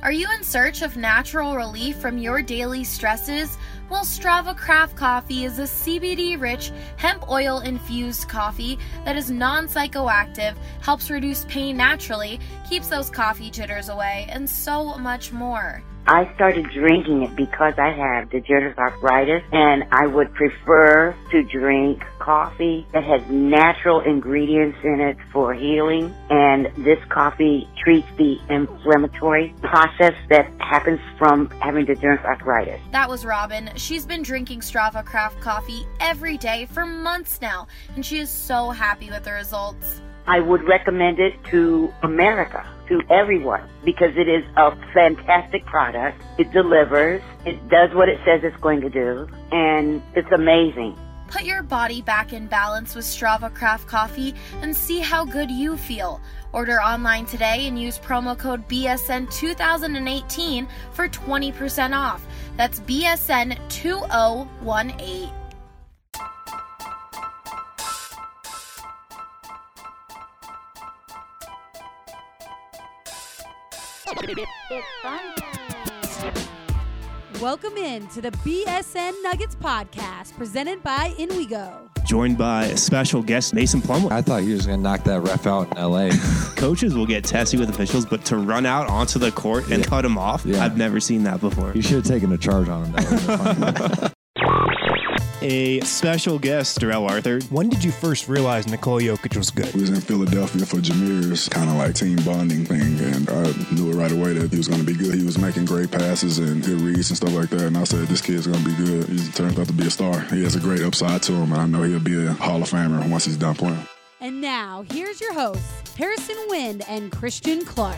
Are you in search of natural relief from your daily stresses? Well, Strava Craft Coffee is a CBD-rich, hemp oil-infused coffee that is non-psychoactive, helps reduce pain naturally, keeps those coffee jitters away, and so much more. I started drinking it because I have degenerative arthritis, and I would prefer to drink coffee that has natural ingredients in it for healing, and this coffee treats the inflammatory process that happens from having degenerative arthritis. That was Robin. She's been drinking Strava Craft Coffee every day for months now, and she is so happy with the results. I would recommend it to America, to everyone, because it is a fantastic product. It delivers. It does what it says it's going to do, and it's amazing. Put your body back in balance with Strava Craft Coffee and see how good you feel. Order online today and use promo code BSN2018 for 20% off. That's BSN2018. Welcome in to the BSN Nuggets podcast presented by InWeGo. Joined by a special guest, Mason Plumlee. I thought he was going to knock that ref out in L.A. Coaches will get testy with officials, but to run out onto the court and cut him off, I've never seen that before. You should have taken a charge on him. That A special guest, Darrell Arthur. When did you first realize Nikola Jokic was good? We was in Philadelphia for Jameer's kind of like team bonding thing, and I knew it right away that he was going to be good. He was making great passes and good reads and stuff like that, and I said, this kid's going to be good. He turns out to be a star. He has a great upside to him, and I know he'll be a Hall of Famer once he's done playing. And now, here's your hosts, Harrison Wind and Christian Clark.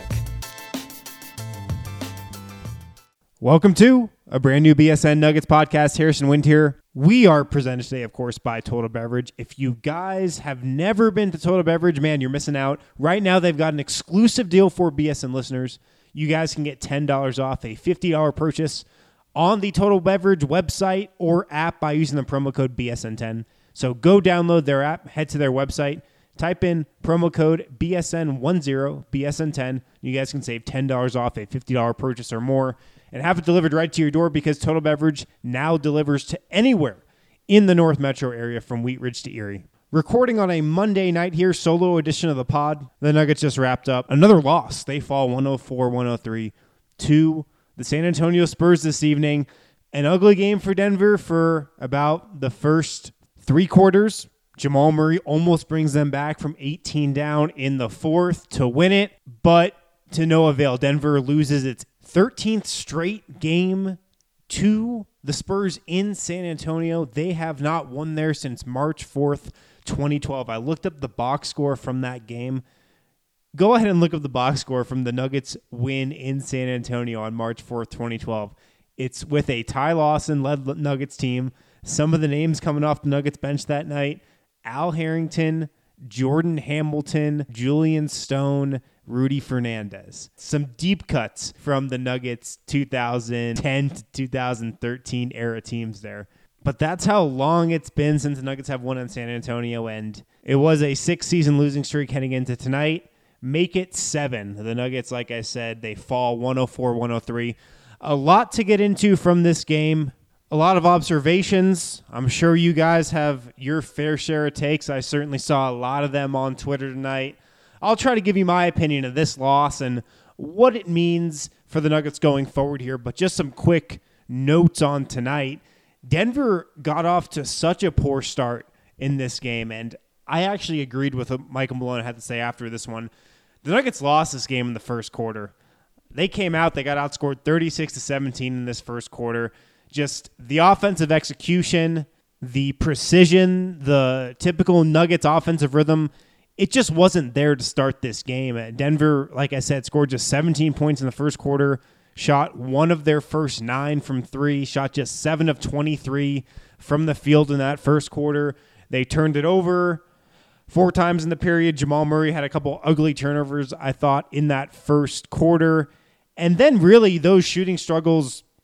Welcome to a brand new BSN Nuggets podcast. Harrison Wind here. We are presented today, of course, by Total Beverage. If you guys have never been to Total Beverage, man, you're missing out. Right now, they've got an exclusive deal for BSN listeners. You guys can get $10 off a $50 purchase on the Total Beverage website or app by using the promo code BSN10. So go download their app, head to their website, type in promo code BSN10, BSN10. You guys can save $10 off a $50 purchase or more and have it delivered right to your door because Total Beverage now delivers to anywhere in the North Metro area from Wheat Ridge to Erie. Recording on a Monday night here, solo edition of the pod. The Nuggets just wrapped up another loss. They fall 104-103 to the San Antonio Spurs this evening. An ugly game for Denver for about the first three quarters. Jamal Murray almost brings them back from 18 down in the fourth to win it, but to no avail. Denver loses its 13th straight game to the Spurs in San Antonio. They have not won there since March 4th, 2012. I looked up the box score from that game. Go ahead and look up the box score from the Nuggets win in San Antonio on March 4th, 2012. It's with a Ty Lawson-led Nuggets team. Some of the names coming off the Nuggets bench that night: Al Harrington, Jordan Hamilton, Julian Stone, Rudy Fernandez. Some deep cuts from the Nuggets 2010 to 2013 era teams there. But that's how long it's been since the Nuggets have won in San Antonio, and it was a 6-season losing streak heading into tonight. Make it 7. The Nuggets, like I said, they fall 104-103. A lot to get into from this game. A lot of observations. I'm sure you guys have your fair share of takes. I certainly saw a lot of them on Twitter tonight. I'll try to give you my opinion of this loss and what it means for the Nuggets going forward here, but just some quick notes on tonight. Denver got off to such a poor start in this game, and I actually agreed with what Michael Malone had to say after this one. The Nuggets lost this game in the first quarter. They came out, they got outscored 36-17 in this first quarter. Just the offensive execution, the precision, the typical Nuggets offensive rhythm, it just wasn't there to start this game. Denver, like I said, scored just 17 points in the first quarter, shot one of their first 9 from 3, shot just 7 of 23 from the field in that first quarter. They turned it over 4 times in the period. Jamal Murray had a couple ugly turnovers, I thought, in that first quarter. And then really those shooting struggles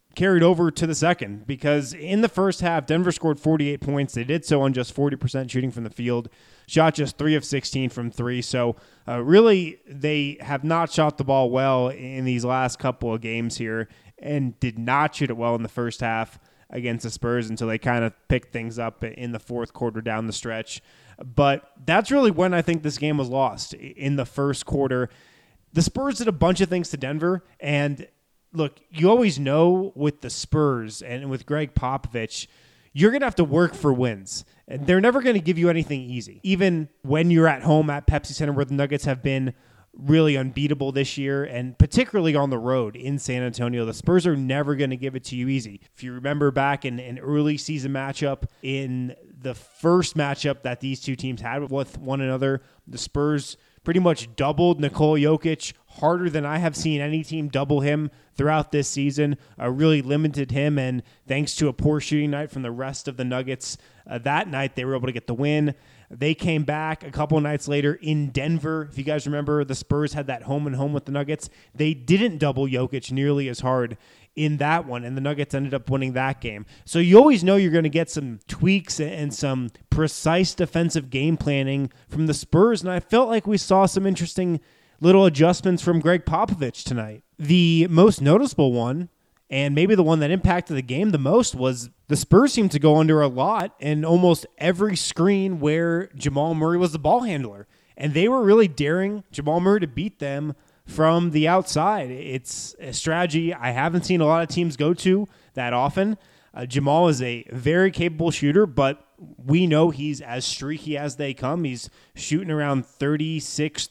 carried over to the second, because in the first half, Denver scored 48 points. They did so on just 40% shooting from the field, shot just 3 of 16 from three. So really, they have not shot the ball well in these last couple of games here and did not shoot it well in the first half against the Spurs until they kind of picked things up in the fourth quarter down the stretch. But that's really when I think this game was lost, in the first quarter. The Spurs did a bunch of things to Denver, and look, you always know with the Spurs and with Greg Popovich, you're going to have to work for wins. And they're never going to give you anything easy. Even when you're at home at Pepsi Center, where the Nuggets have been really unbeatable this year, and particularly on the road in San Antonio, the Spurs are never going to give it to you easy. If you remember back in an early season matchup, in the first matchup that these two teams had with one another, the Spurs pretty much doubled Nikola Jokic harder than I have seen any team double him throughout this season. Really limited him, and thanks to a poor shooting night from the rest of the Nuggets that night, they were able to get the win. They came back a couple nights later in Denver. If you guys remember, the Spurs had that home and home with the Nuggets. They didn't double Jokic nearly as hard in that one, and the Nuggets ended up winning that game. So you always know you're going to get some tweaks and some precise defensive game planning from the Spurs, and I felt like we saw some interesting little adjustments from Greg Popovich tonight. The most noticeable one, and maybe the one that impacted the game the most, was the Spurs seemed to go under a lot in almost every screen where Jamal Murray was the ball handler. And they were really daring Jamal Murray to beat them from the outside. It's a strategy I haven't seen a lot of teams go to that often. Jamal is a very capable shooter, but we know he's as streaky as they come. He's shooting around 36,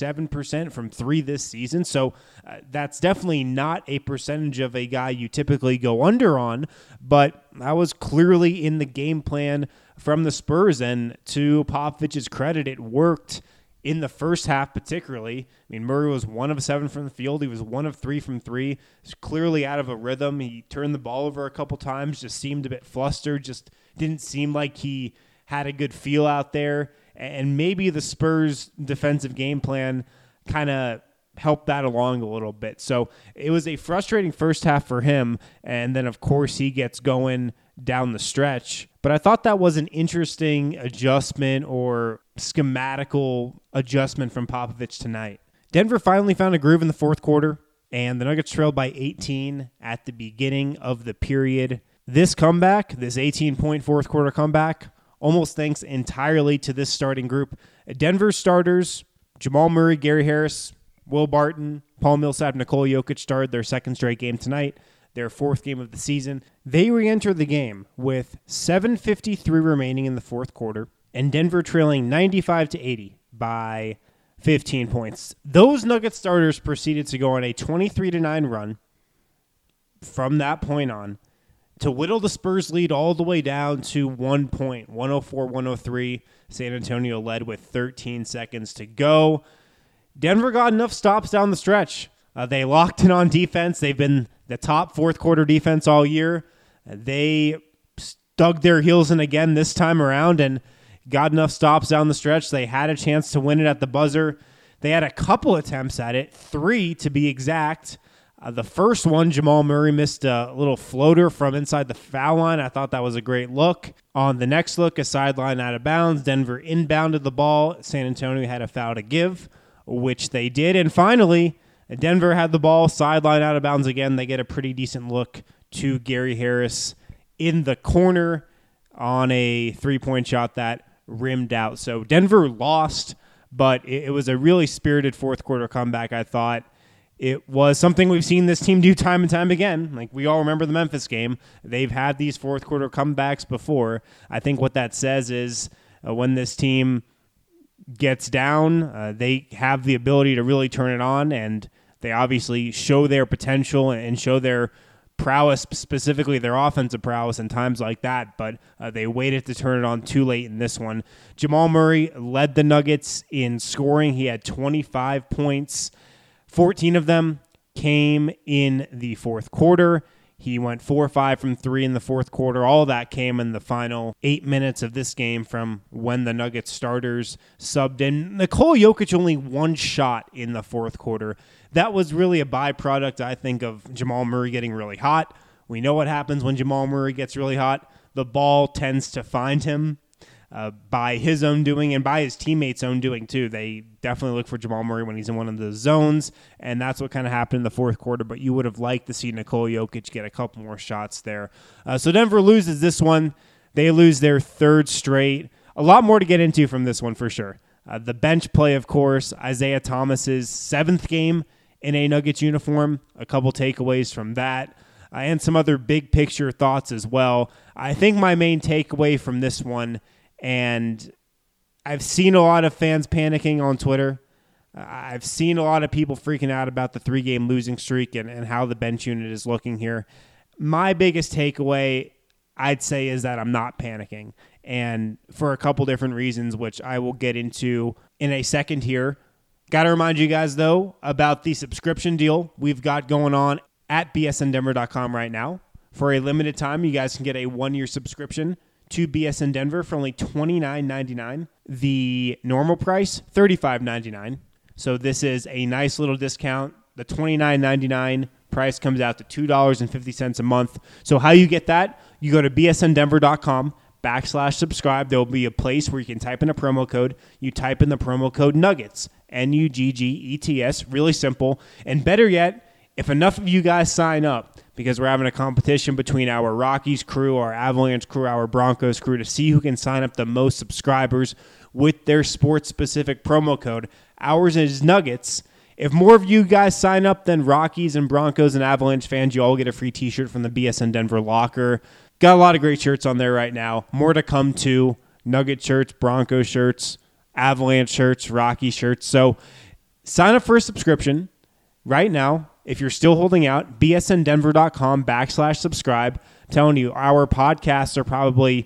37% from three this season. So that's definitely not a percentage of a guy you typically go under on, but that was clearly in the game plan from the Spurs. And to Popovich's credit, it worked in the first half particularly. I mean, Murray was 1 of 7 from the field. He was 1 of 3 from three. He's clearly out of a rhythm. He turned the ball over a couple times, just seemed a bit flustered, just didn't seem like he had a good feel out there. And maybe the Spurs' defensive game plan kind of helped that along a little bit. So it was a frustrating first half for him. And then, of course, he gets going down the stretch. But I thought that was an interesting adjustment or schematical adjustment from Popovich tonight. Denver finally found a groove in the fourth quarter, and the Nuggets trailed by 18 at the beginning of the period. This comeback, this 18-point fourth quarter comeback, almost thanks entirely to this starting group. Denver starters, Jamal Murray, Gary Harris, Will Barton, Paul Millsap, Nikola Jokic started their second straight game tonight, their fourth game of the season. They re-entered the game with 7:53 remaining in the fourth quarter, and Denver trailing 95-80 by 15 points. Those Nuggets starters proceeded to go on a 23-9 run from that point on to whittle the Spurs lead all the way down to 1 point, 104-103. San Antonio led with 13 seconds to go. Denver got enough stops down the stretch. They locked in on defense. They've been the top fourth quarter defense all year. They dug their heels in again this time around and got enough stops down the stretch. They had a chance to win it at the buzzer. They had a couple attempts at it, 3 to be exact. The first one, Jamal Murray missed a little floater from inside the foul line. I thought that was a great look. On the next look, a sideline out of bounds. Denver inbounded the ball. San Antonio had a foul to give, which they did. And finally, Denver had the ball, sideline out of bounds again. They get a pretty decent look to Gary Harris in the corner on a three-point shot that rimmed out. So Denver lost, but it was a really spirited fourth quarter comeback, I thought. It was something we've seen this team do time and time again. Like, we all remember the Memphis game. They've had these fourth quarter comebacks before. I think what that says is when this team gets down, they have the ability to really turn it on, and they obviously show their potential and show their prowess, specifically their offensive prowess in times like that, but they waited to turn it on too late in this one. Jamal Murray led the Nuggets in scoring. He had 25 points. 14 of them came in the fourth quarter. He went 4-5 from 3 in the fourth quarter. All of that came in the final 8 minutes of this game from when the Nuggets starters subbed in. Nikola Jokic only 1 shot in the fourth quarter. That was really a byproduct, I think, of Jamal Murray getting really hot. We know what happens when Jamal Murray gets really hot. The ball tends to find him by his own doing and by his teammates' own doing too. They definitely look for Jamal Murray when he's in one of the zones, and that's what kind of happened in the fourth quarter, but you would have liked to see Nikola Jokic get a couple more shots there. So Denver loses this one. They lose their third straight. A lot more to get into from this one for sure. The bench play, of course, Isaiah Thomas's 7th game in a Nuggets uniform, a couple takeaways from that, and some other big picture thoughts as well. I think my main takeaway from this one, and I've seen a lot of fans panicking on Twitter. I've seen a lot of people freaking out about the 3-game losing streak and how the bench unit is looking here. My biggest takeaway, I'd say, is that I'm not panicking, and for a couple different reasons, which I will get into in a second here. Got to remind you guys, though, about the subscription deal we've got going on at bsndenver.com right now. For a limited time, you guys can get a 1-year subscription to BSN Denver for only $29.99. The normal price, $35.99. So this is a nice little discount. The $29.99 price comes out to $2.50 a month. So how you get that? You go to bsndenver.com/subscribe. There will be a place where you can type in a promo code. You type in the promo code NUGGETS, NUGGETS. Really simple. And better yet, if enough of you guys sign up, because we're having a competition between our Rockies crew, our Avalanche crew, our Broncos crew to see who can sign up the most subscribers with their sports-specific promo code. Ours is Nuggets. If more of you guys sign up than Rockies and Broncos and Avalanche fans, you all get a free t-shirt from the BSN Denver locker. Got a lot of great shirts on there right now. More to come too. Nugget shirts, Broncos shirts, Avalanche shirts, Rocky shirts. So sign up for a subscription right now. If you're still holding out, bsndenver.com/subscribe. Telling you, our podcasts are probably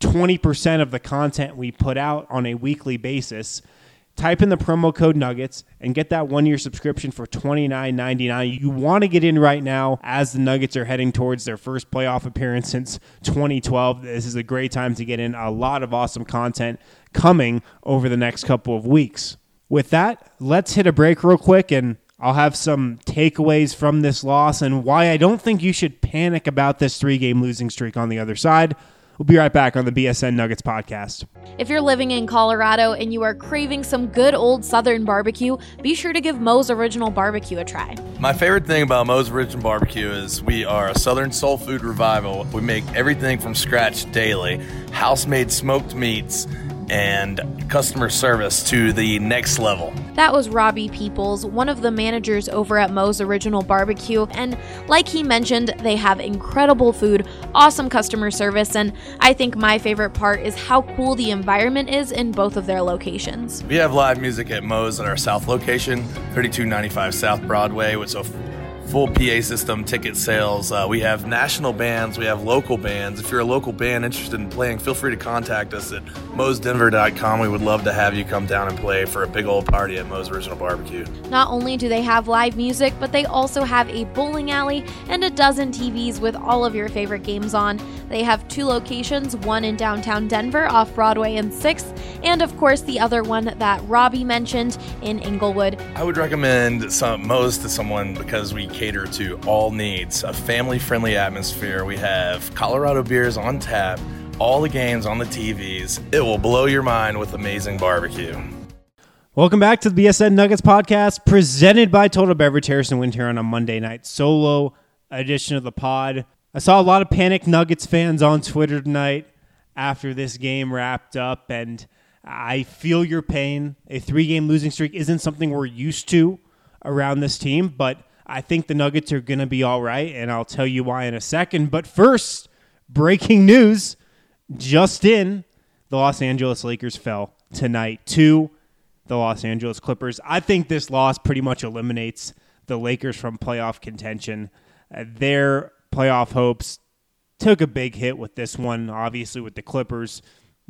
20% of the content we put out on a weekly basis. Type in the promo code Nuggets and get that 1-year subscription for $29.99. You want to get in right now as the Nuggets are heading towards their first playoff appearance since 2012. This is a great time to get in. A lot of awesome content coming over the next couple of weeks. With that, let's hit a break real quick, and I'll have some takeaways from this loss and why I don't think you should panic about this 3-game losing streak on the other side. We'll be right back on the BSN Nuggets podcast. If you're living in Colorado and you are craving some good old Southern barbecue, be sure to give Moe's Original Barbecue a try. My favorite thing about Moe's Original Barbecue is we are a Southern soul food revival. We make everything from scratch daily, house-made smoked meats, and customer service to the next level. That was Robbie Peoples, one of the managers over at Moe's Original Barbecue, and like he mentioned, they have incredible food, awesome customer service, and I think my favorite part is how cool the environment is in both of their locations. We have live music at Moe's at our South location, 3295 South Broadway, with a full PA system, ticket sales. We have national bands. We have local bands. If you're a local band interested in playing, feel free to contact us at moesdenver.com. We would love to have you come down and play for a big old party at Moe's Original Barbecue. Not only do they have live music, but they also have a bowling alley and a dozen TVs with all of your favorite games on. They have 2 locations, one in downtown Denver off Broadway and 6th, and of course the other one that Robbie mentioned in Inglewood. I would recommend Moe's to someone because we cater to all needs, a family-friendly atmosphere. We have Colorado beers on tap, all the games on the TVs. It will blow your mind with amazing barbecue. Welcome back to the BSN Nuggets podcast, presented by Total Beverage. Harrison Wind here on a Monday night solo edition of the pod. I saw a lot of panicked Nuggets fans on Twitter tonight after this game wrapped up, and I feel your pain. A 3-game losing streak isn't something we're used to around this team, but I think the Nuggets are going to be all right, and I'll tell you why in a second. But first, breaking news, just in, the Los Angeles Lakers fell tonight to the Los Angeles Clippers. I think this loss pretty much eliminates the Lakers from playoff contention. Their playoff hopes took a big hit with this one, obviously with the Clippers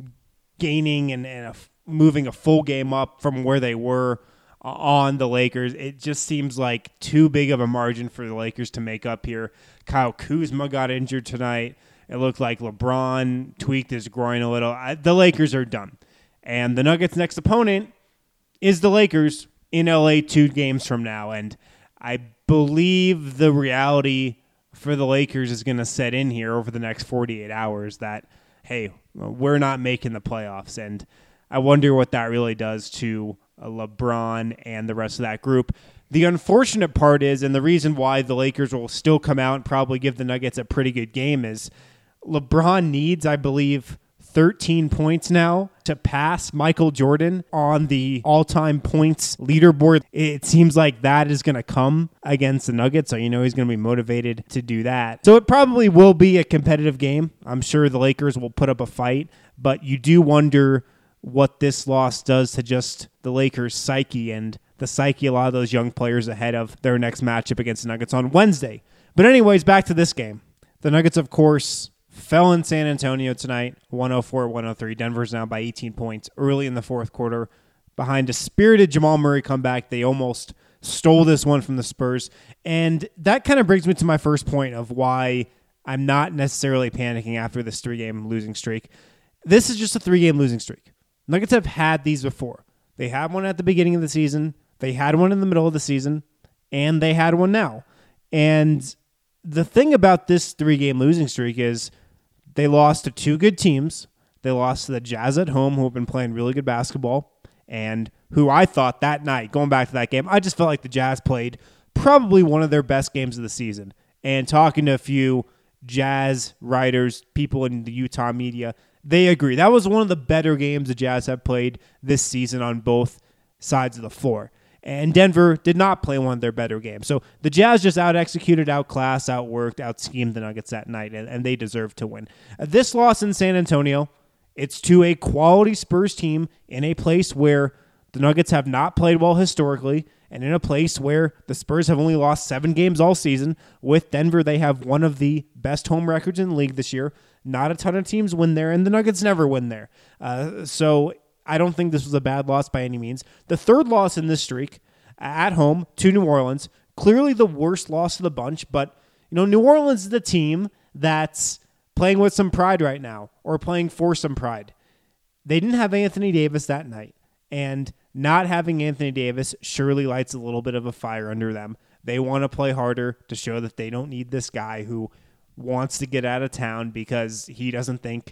gaining and moving a full game up from where they were on the Lakers. It just seems like too big of a margin for the Lakers to make up here. Kyle Kuzma got injured tonight. It looked like LeBron tweaked his groin a little. The Lakers are done. And the Nuggets' next opponent is the Lakers in LA 2 games from now. And I believe the reality for the Lakers is going to set in here over the next 48 hours that, hey, we're not making the playoffs. And I wonder what that really does to LeBron and the rest of that group. The unfortunate part is, and the reason why the Lakers will still come out and probably give the Nuggets a pretty good game, is LeBron needs, I believe, 13 points now to pass Michael Jordan on the all-time points leaderboard. It seems like that is going to come against the Nuggets, so you know he's going to be motivated to do that. So it probably will be a competitive game. I'm sure the Lakers will put up a fight, but you do wonder what this loss does to just the Lakers' psyche and the psyche of a lot of those young players ahead of their next matchup against the Nuggets on Wednesday. But anyways, back to this game. The Nuggets, of course, fell in San Antonio tonight, 104-103. Denver's down by 18 points early in the fourth quarter. Behind a spirited Jamal Murray comeback, they almost stole this one from the Spurs. And that kind of brings me to my first point of why I'm not necessarily panicking after this 3-game losing streak. This is just a 3-game losing streak. Nuggets have had these before. They had one at the beginning of the season. They had one in the middle of the season, and they had one now. And the thing about this 3-game losing streak is they lost to 2 good teams. They lost to the Jazz at home, who have been playing really good basketball, and who I thought that night, going back to that game, I just felt like the Jazz played probably one of their best games of the season. And talking to a few Jazz writers, people in the Utah media, they agree. That was one of the better games the Jazz have played this season on both sides of the floor. And Denver did not play one of their better games. So the Jazz just out-executed, out-classed, out-worked, out-schemed the Nuggets that night, and they deserve to win. This loss in San Antonio, it's to a quality Spurs team in a place where the Nuggets have not played well historically, and in a place where the Spurs have only lost 7 games all season. With Denver, they have one of the best home records in the league this year. Not a ton of teams win there, and the Nuggets never win there. So I don't think this was a bad loss by any means. The third loss in this streak, at home to New Orleans, clearly the worst loss of the bunch, but New Orleans is the team that's playing with some pride right now, or playing for some pride. They didn't have Anthony Davis that night, and not having Anthony Davis surely lights a little bit of a fire under them. They want to play harder to show that they don't need this guy who wants to get out of town because he doesn't think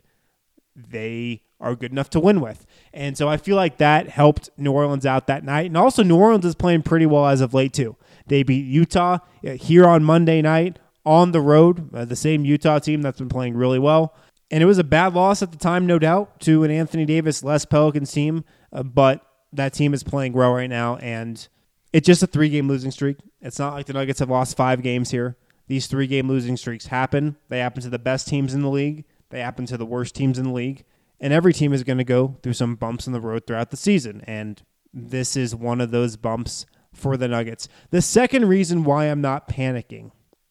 they are good enough to win with. And so I feel like that helped New Orleans out that night. And also New Orleans is playing pretty well as of late too. They beat Utah here on Monday night on the road, the same Utah team that's been playing really well. And it was a bad loss at the time, no doubt, to an Anthony Davis-less Pelicans team, but that team is playing well right now, and it's just a 3-game losing streak. It's not like the Nuggets have lost 5 games here. These 3-game losing streaks happen. They happen to the best teams in the league. They happen to the worst teams in the league. And every team is going to go through some bumps in the road throughout the season. And this is one of those bumps for the Nuggets. The second reason why I'm not panicking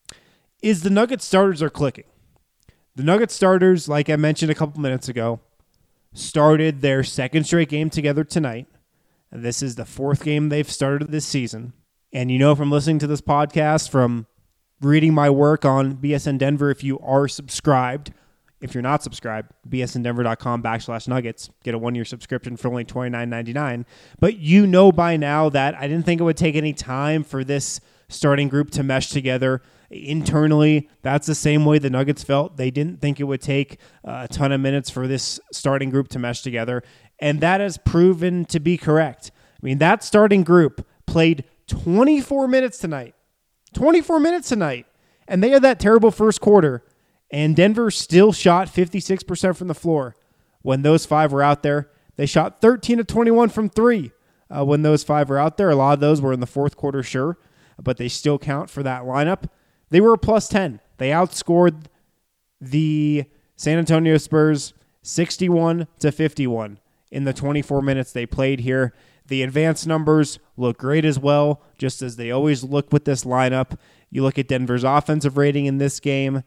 is the Nuggets starters are clicking. The Nuggets starters, like I mentioned a couple minutes ago, started their second straight game together tonight. This is the 4th game they've started this season. And from listening to this podcast, from reading my work on BSN Denver, if you are subscribed, if you're not subscribed, bsndenver.com/nuggets. Get a 1-year subscription for only $29.99. But by now that I didn't think it would take any time for this starting group to mesh together internally. That's the same way the Nuggets felt. They didn't think it would take a ton of minutes for this starting group to mesh together. And that has proven to be correct. I mean, that starting group played 24 minutes tonight. 24 minutes tonight. And they had that terrible first quarter. And Denver still shot 56% from the floor. When those 5 were out there, they shot 13 of 21 from 3. When those 5 were out there, a lot of those were in the fourth quarter, sure. But they still count for that lineup. They were a plus 10. They outscored the San Antonio Spurs 61-51 in the 24 minutes they played here. The advanced numbers look great as well, just as they always look with this lineup. You look at Denver's offensive rating in this game,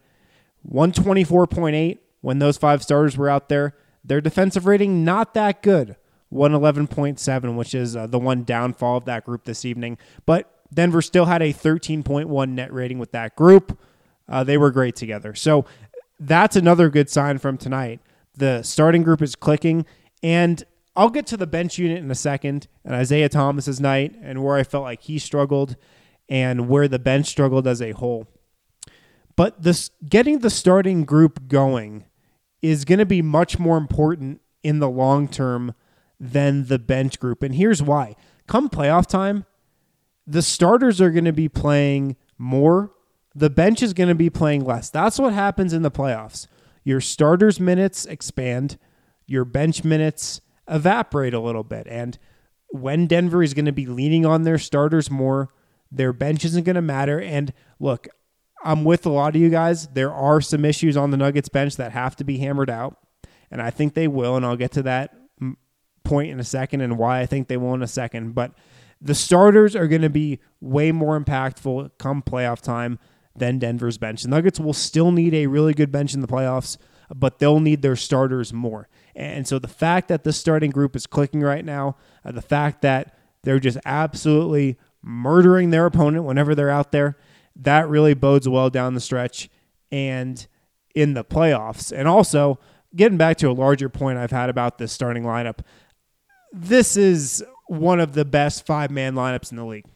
124.8 when those 5 starters were out there. Their defensive rating, not that good, 111.7, which is the one downfall of that group this evening. But Denver still had a 13.1 net rating with that group. They were great together. So that's another good sign from tonight. The starting group is clicking, and I'll get to the bench unit in a second, and Isaiah Thomas's night, and where I felt like he struggled, and where the bench struggled as a whole. But getting the starting group going is going to be much more important in the long term than the bench group. And here's why. Come playoff time, the starters are going to be playing more. The bench is going to be playing less. That's what happens in the playoffs. Your starters' minutes expand. Your bench minutes evaporate a little bit. And when Denver is going to be leaning on their starters more, their bench isn't going to matter. And look, I'm with a lot of you guys. There are some issues on the Nuggets bench that have to be hammered out, and I think they will, and I'll get to that point in a second and why I think they will in a second. But the starters are going to be way more impactful come playoff time than Denver's bench. The Nuggets will still need a really good bench in the playoffs, but they'll need their starters more. And so the fact that the starting group is clicking right now, the fact that they're just absolutely murdering their opponent whenever they're out there, that really bodes well down the stretch and in the playoffs. And also, getting back to a larger point I've had about this starting lineup, this is one of the best 5-man lineups in the league.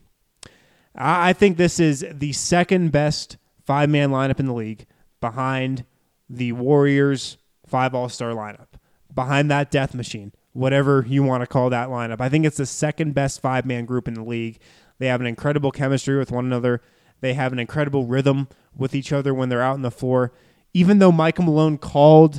I think this is the second best 5-man lineup in the league behind the Warriors 5 All-Star lineup, behind that death machine, whatever you want to call that lineup. I think it's the second best 5-man group in the league. They have an incredible chemistry with one another. They have an incredible rhythm with each other when they're out on the floor. Even though Michael Malone called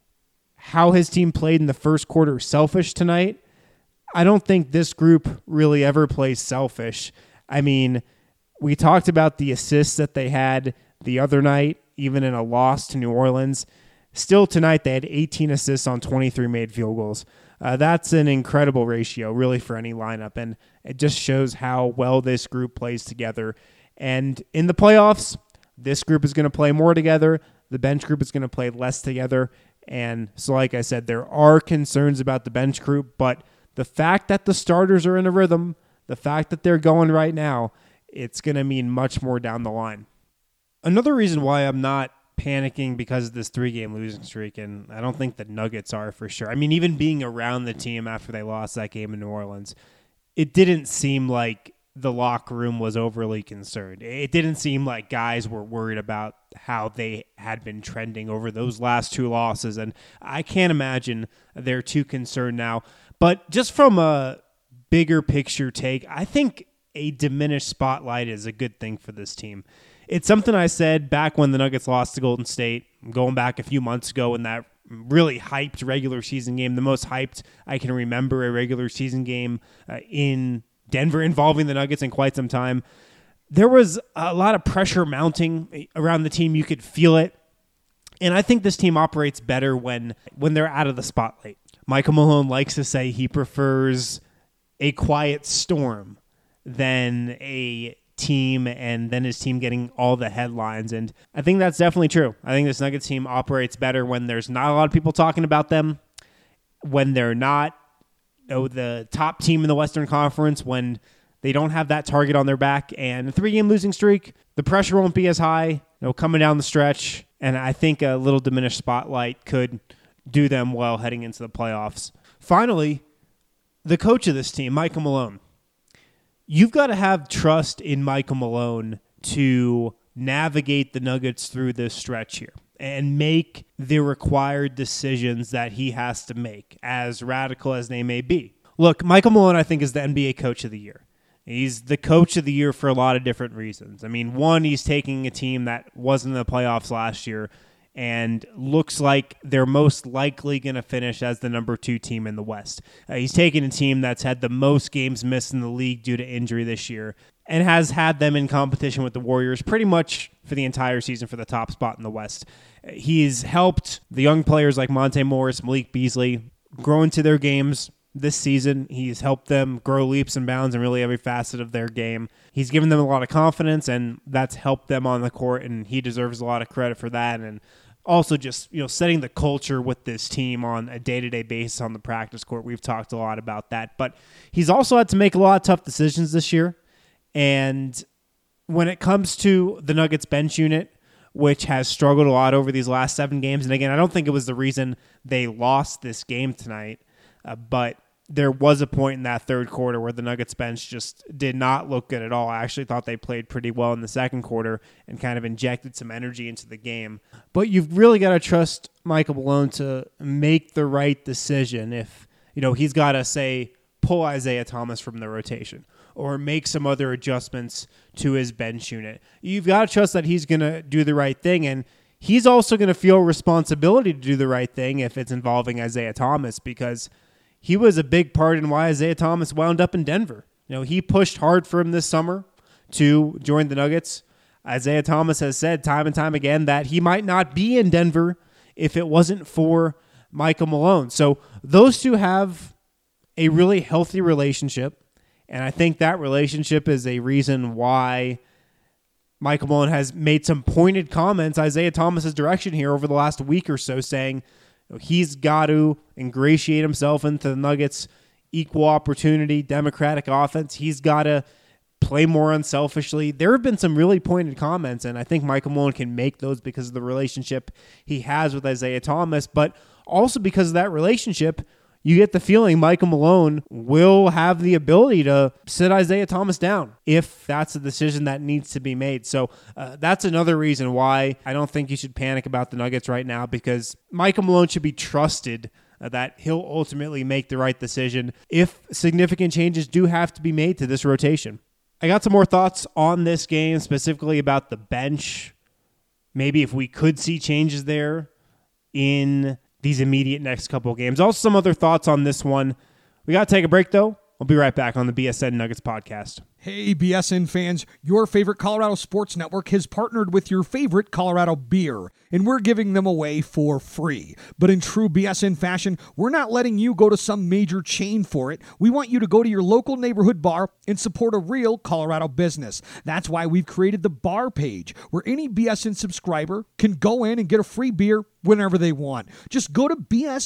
how his team played in the first quarter selfish tonight, I don't think this group really ever plays selfish. I mean, we talked about the assists that they had the other night, even in a loss to New Orleans. Still tonight, they had 18 assists on 23 made field goals. That's an incredible ratio, really, for any lineup, and it just shows how well this group plays together. And in the playoffs, this group is going to play more together. The bench group is going to play less together. And so, like I said, there are concerns about the bench group, but the fact that the starters are in a rhythm, the fact that they're going right now, it's going to mean much more down the line. Another reason why I'm not panicking because of this 3-game losing streak, and I don't think the Nuggets are for sure. I mean, even being around the team after they lost that game in New Orleans, it didn't seem like the locker room was overly concerned. It didn't seem like guys were worried about how they had been trending over those last 2 losses, and I can't imagine they're too concerned now. But just from a bigger picture take, I think a diminished spotlight is a good thing for this team. It's something I said back when the Nuggets lost to Golden State, going back a few months ago in that really hyped regular season game, the most hyped I can remember a regular season game in Denver involving the Nuggets in quite some time. There was a lot of pressure mounting around the team. You could feel it. And I think this team operates better when they're out of the spotlight. Michael Malone likes to say he prefers a quiet storm than a team and then his team getting all the headlines. And I think that's definitely true. I think this Nuggets team operates better when there's not a lot of people talking about them, when they're not the top team in the Western Conference, when they don't have that target on their back. And a 3-game losing streak, the pressure won't be as high, coming down the stretch. And I think a little diminished spotlight could do them well heading into the playoffs. Finally, the coach of this team, Michael Malone. You've got to have trust in Michael Malone to navigate the Nuggets through this stretch here and make the required decisions that he has to make, as radical as they may be. Look, Michael Malone, I think, is the NBA Coach of the Year. He's the Coach of the Year for a lot of different reasons. I mean, one, he's taking a team that wasn't in the playoffs last year and looks like they're most likely going to finish as the number 2 team in the West. He's taken a team that's had the most games missed in the league due to injury this year and has had them in competition with the Warriors pretty much for the entire season for the top spot in the West. He's helped the young players like Monte Morris, Malik Beasley grow into their games this season. He's helped them grow leaps and bounds in really every facet of their game. He's given them a lot of confidence, and that's helped them on the court, and he deserves a lot of credit for that. And also just, setting the culture with this team on a day-to-day basis on the practice court. We've talked a lot about that. But he's also had to make a lot of tough decisions this year. And when it comes to the Nuggets bench unit, which has struggled a lot over these last 7 games, and again, I don't think it was the reason they lost this game tonight, but there was a point in that third quarter where the Nuggets bench just did not look good at all. I actually thought they played pretty well in the second quarter and kind of injected some energy into the game. But you've really got to trust Michael Malone to make the right decision. If, he's got to, say, pull Isaiah Thomas from the rotation or make some other adjustments to his bench unit. You've got to trust that he's going to do the right thing, and he's also going to feel responsibility to do the right thing if it's involving Isaiah Thomas, because he was a big part in why Isaiah Thomas wound up in Denver. He pushed hard for him this summer to join the Nuggets. Isaiah Thomas has said time and time again that he might not be in Denver if it wasn't for Michael Malone. So those two have a really healthy relationship, and I think that relationship is a reason why Michael Malone has made some pointed comments Isaiah Thomas's direction here over the last week or so, saying he's got to ingratiate himself into the Nuggets' equal opportunity, democratic offense. He's got to play more unselfishly. There have been some really pointed comments, and I think Michael Malone can make those because of the relationship he has with Isaiah Thomas, but also because of that relationship, you get the feeling Michael Malone will have the ability to sit Isaiah Thomas down if that's a decision that needs to be made. So that's another reason why I don't think you should panic about the Nuggets right now, because Michael Malone should be trusted that he'll ultimately make the right decision if significant changes do have to be made to this rotation. I got some more thoughts on this game, specifically about the bench. Maybe if we could see changes there in these immediate next couple of games. Also, some other thoughts on this one. We got to take a break, though. We'll be right back on the BSN Nuggets podcast. Hey, BSN fans, your favorite Colorado Sports Network has partnered with your favorite Colorado beer, and we're giving them away for free. But in true BSN fashion, we're not letting you go to some major chain for it. We want you to go to your local neighborhood bar and support a real Colorado business. That's why we've created the bar page, where any BSN subscriber can go in and get a free beer whenever they want. Just go to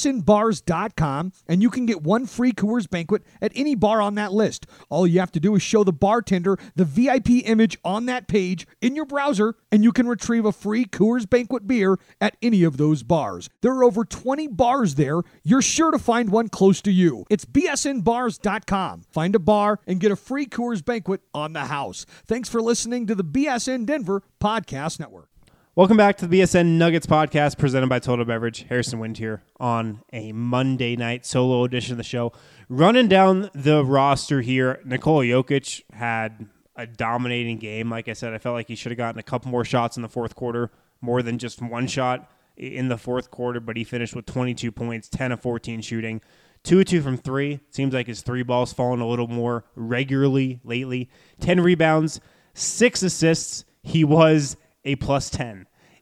bsnbars.com and you can get one free Coors Banquet at any bar on that list. All you have to do is show the bartender the VIP image on that page in your browser, and you can retrieve a free Coors Banquet beer at any of those bars. There are over 20 bars there. You're sure to find one close to you. It's bsnbars.com. Find a bar and get a free Coors Banquet on the house. Thanks for listening to the BSN Denver Podcast Network. Welcome back to the BSN Nuggets podcast presented by Total Beverage. Harrison Wind here on a Monday night solo edition of the show. Running down the roster here, Nikola Jokic had a dominating game. Like I said, I felt like he should have gotten a couple more shots in the fourth quarter, more than just one shot in the fourth quarter, but he finished with 22 points, 10 of 14 shooting, 2 of 2 from 3. Seems like his three ball's fallen a little more regularly lately. 10 rebounds, 6 assists. He was a plus 10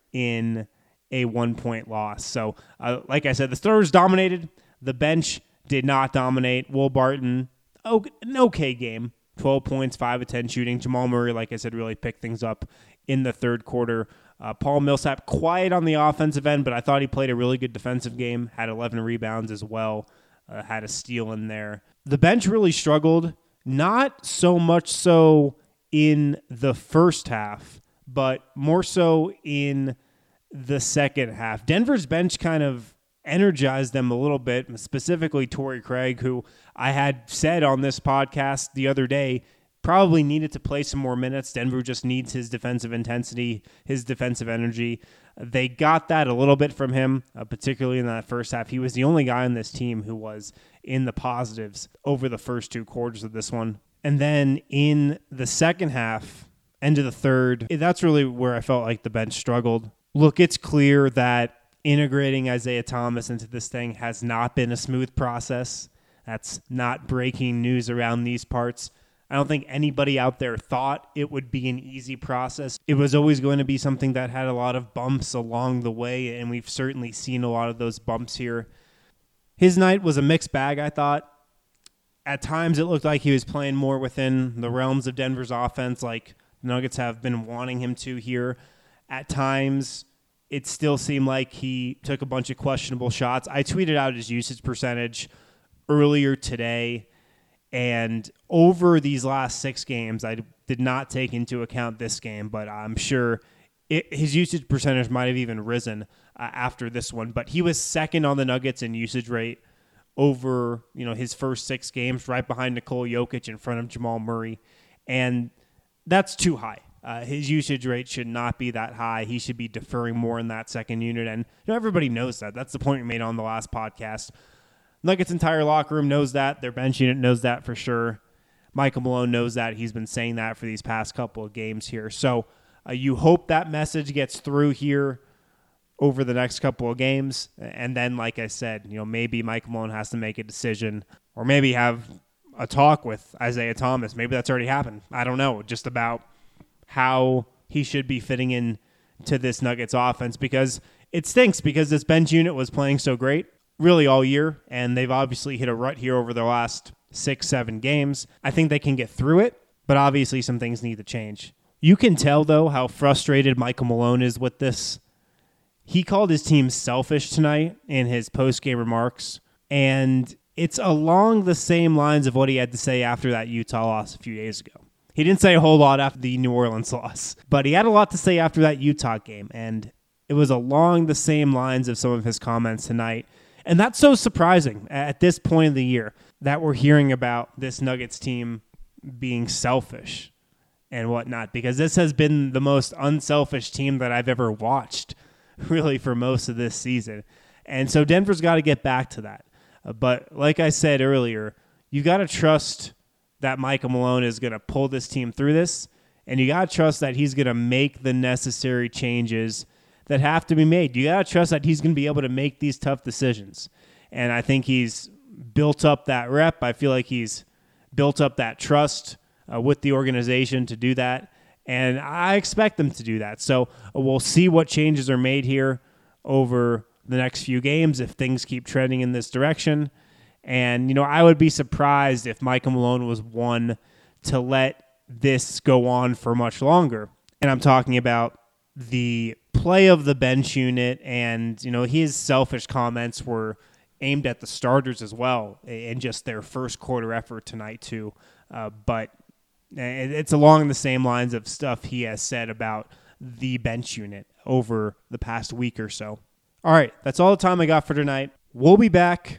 in a 1-point loss. So, like I said, the starters dominated. The bench did not dominate. Will Barton, an okay game. 12 points, 5 of 10 shooting. Jamal Murray, like I said, really picked things up in the third quarter. Paul Millsap, quiet on the offensive end, but I thought he played a really good defensive game. Had 11 rebounds as well. Had a steal in there. The bench really struggled. Not so much so in the first half, but more so in the second half. Denver's bench kind of energized them a little bit, specifically Torrey Craig, who I had said on this podcast the other day probably needed to play some more minutes. Denver just needs his defensive intensity, his defensive energy. They got that a little bit from him, particularly in that first half. He was the only guy on this team who was in the positives over the first 2 quarters of this one. And then in the second half, end of the third, that's really where I felt like the bench struggled. Look, it's clear that integrating Isaiah Thomas into this thing has not been a smooth process. That's not breaking news around these parts. I don't think anybody out there thought it would be an easy process. It was always going to be something that had a lot of bumps along the way, and we've certainly seen a lot of those bumps here. His night was a mixed bag, I thought. At times, it looked like he was playing more within the realms of Denver's offense, like the Nuggets have been wanting him to here. At times, it still seemed like he took a bunch of questionable shots. I tweeted out his usage percentage earlier today, and over these last 6 games, I did not take into account this game, but I'm sure his usage percentage might have even risen after this one. But he was second on the Nuggets in usage rate over, his first 6 games, right behind Nikola Jokic, in front of Jamal Murray. And that's too high. His usage rate should not be that high. He should be deferring more in that second unit. And everybody knows that. That's the point we made on the last podcast. Nuggets' entire locker room knows that. Their bench unit knows that for sure. Michael Malone knows that. He's been saying that for these past couple of games here. So you hope that message gets through here over the next couple of games. And then, like I said, maybe Michael Malone has to make a decision, or maybe have a talk with Isaiah Thomas. Maybe that's already happened. I don't know. Just about how he should be fitting in to this Nuggets offense, because it stinks, because this bench unit was playing so great really all year, and they've obviously hit a rut here over the last 6-7 games. I think they can get through it, but obviously some things need to change. You can tell, though, how frustrated Michael Malone is with this. He called his team selfish tonight in his post-game remarks, and it's along the same lines of what he had to say after that Utah loss a few days ago. He didn't say a whole lot after the New Orleans loss, but he had a lot to say after that Utah game, and it was along the same lines of some of his comments tonight. And that's so surprising at this point of the year that we're hearing about this Nuggets team being selfish and whatnot, because this has been the most unselfish team that I've ever watched, really, for most of this season. And so Denver's got to get back to that. But like I said earlier, you got to trust that Michael Malone is going to pull this team through this, and you got to trust that he's going to make the necessary changes that have to be made. You got to trust that he's going to be able to make these tough decisions. And I think he's built up that rep. I feel like he's built up that trust with the organization to do that. And I expect them to do that. So we'll see what changes are made here over the next few games if things keep trending in this direction. And, I would be surprised if Michael Malone was one to let this go on for much longer. And I'm talking about the play of the bench unit, and his selfish comments were aimed at the starters as well, and just their first quarter effort tonight too. But it's along the same lines of stuff he has said about the bench unit over the past week or so. All right, that's all the time I got for tonight. We'll be back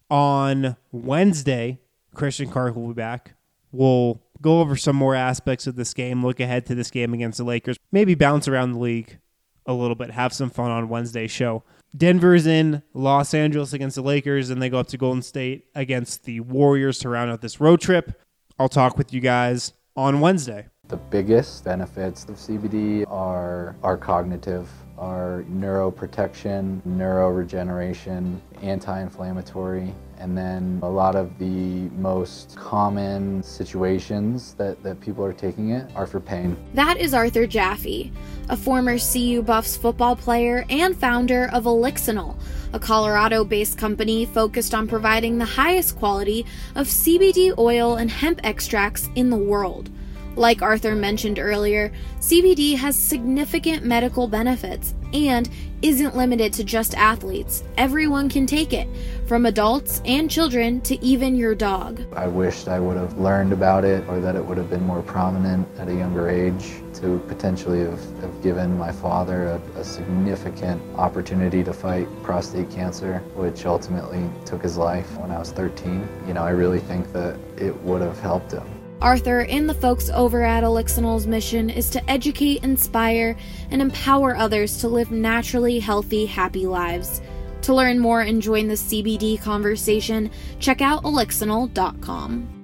on Wednesday. Christian Clark will be back. We'll go over some more aspects of this game, look ahead to this game against the Lakers, maybe bounce around the league a little bit, have some fun on Wednesday's show. Denver's in Los Angeles against the Lakers, and they go up to Golden State against the Warriors to round out this road trip. I'll talk with you guys on Wednesday. The biggest benefits of CBD are cognitive, are neuroprotection, neuroregeneration, anti-inflammatory, and then a lot of the most common situations that people are taking it are for pain. That is Arthur Jaffe, a former CU Buffs football player and founder of Elixinol, a Colorado-based company focused on providing the highest quality of CBD oil and hemp extracts in the world. Like Arthur mentioned earlier, CBD has significant medical benefits and isn't limited to just athletes. Everyone can take it, from adults and children to even your dog. I wished I would have learned about it, or that it would have been more prominent at a younger age, to potentially have given my father a significant opportunity to fight prostate cancer, which ultimately took his life when I was 13. I really think that it would have helped him. Arthur and the folks over at Elixinol's mission is to educate, inspire, and empower others to live naturally healthy, happy lives. To learn more and join the CBD conversation, check out elixinol.com.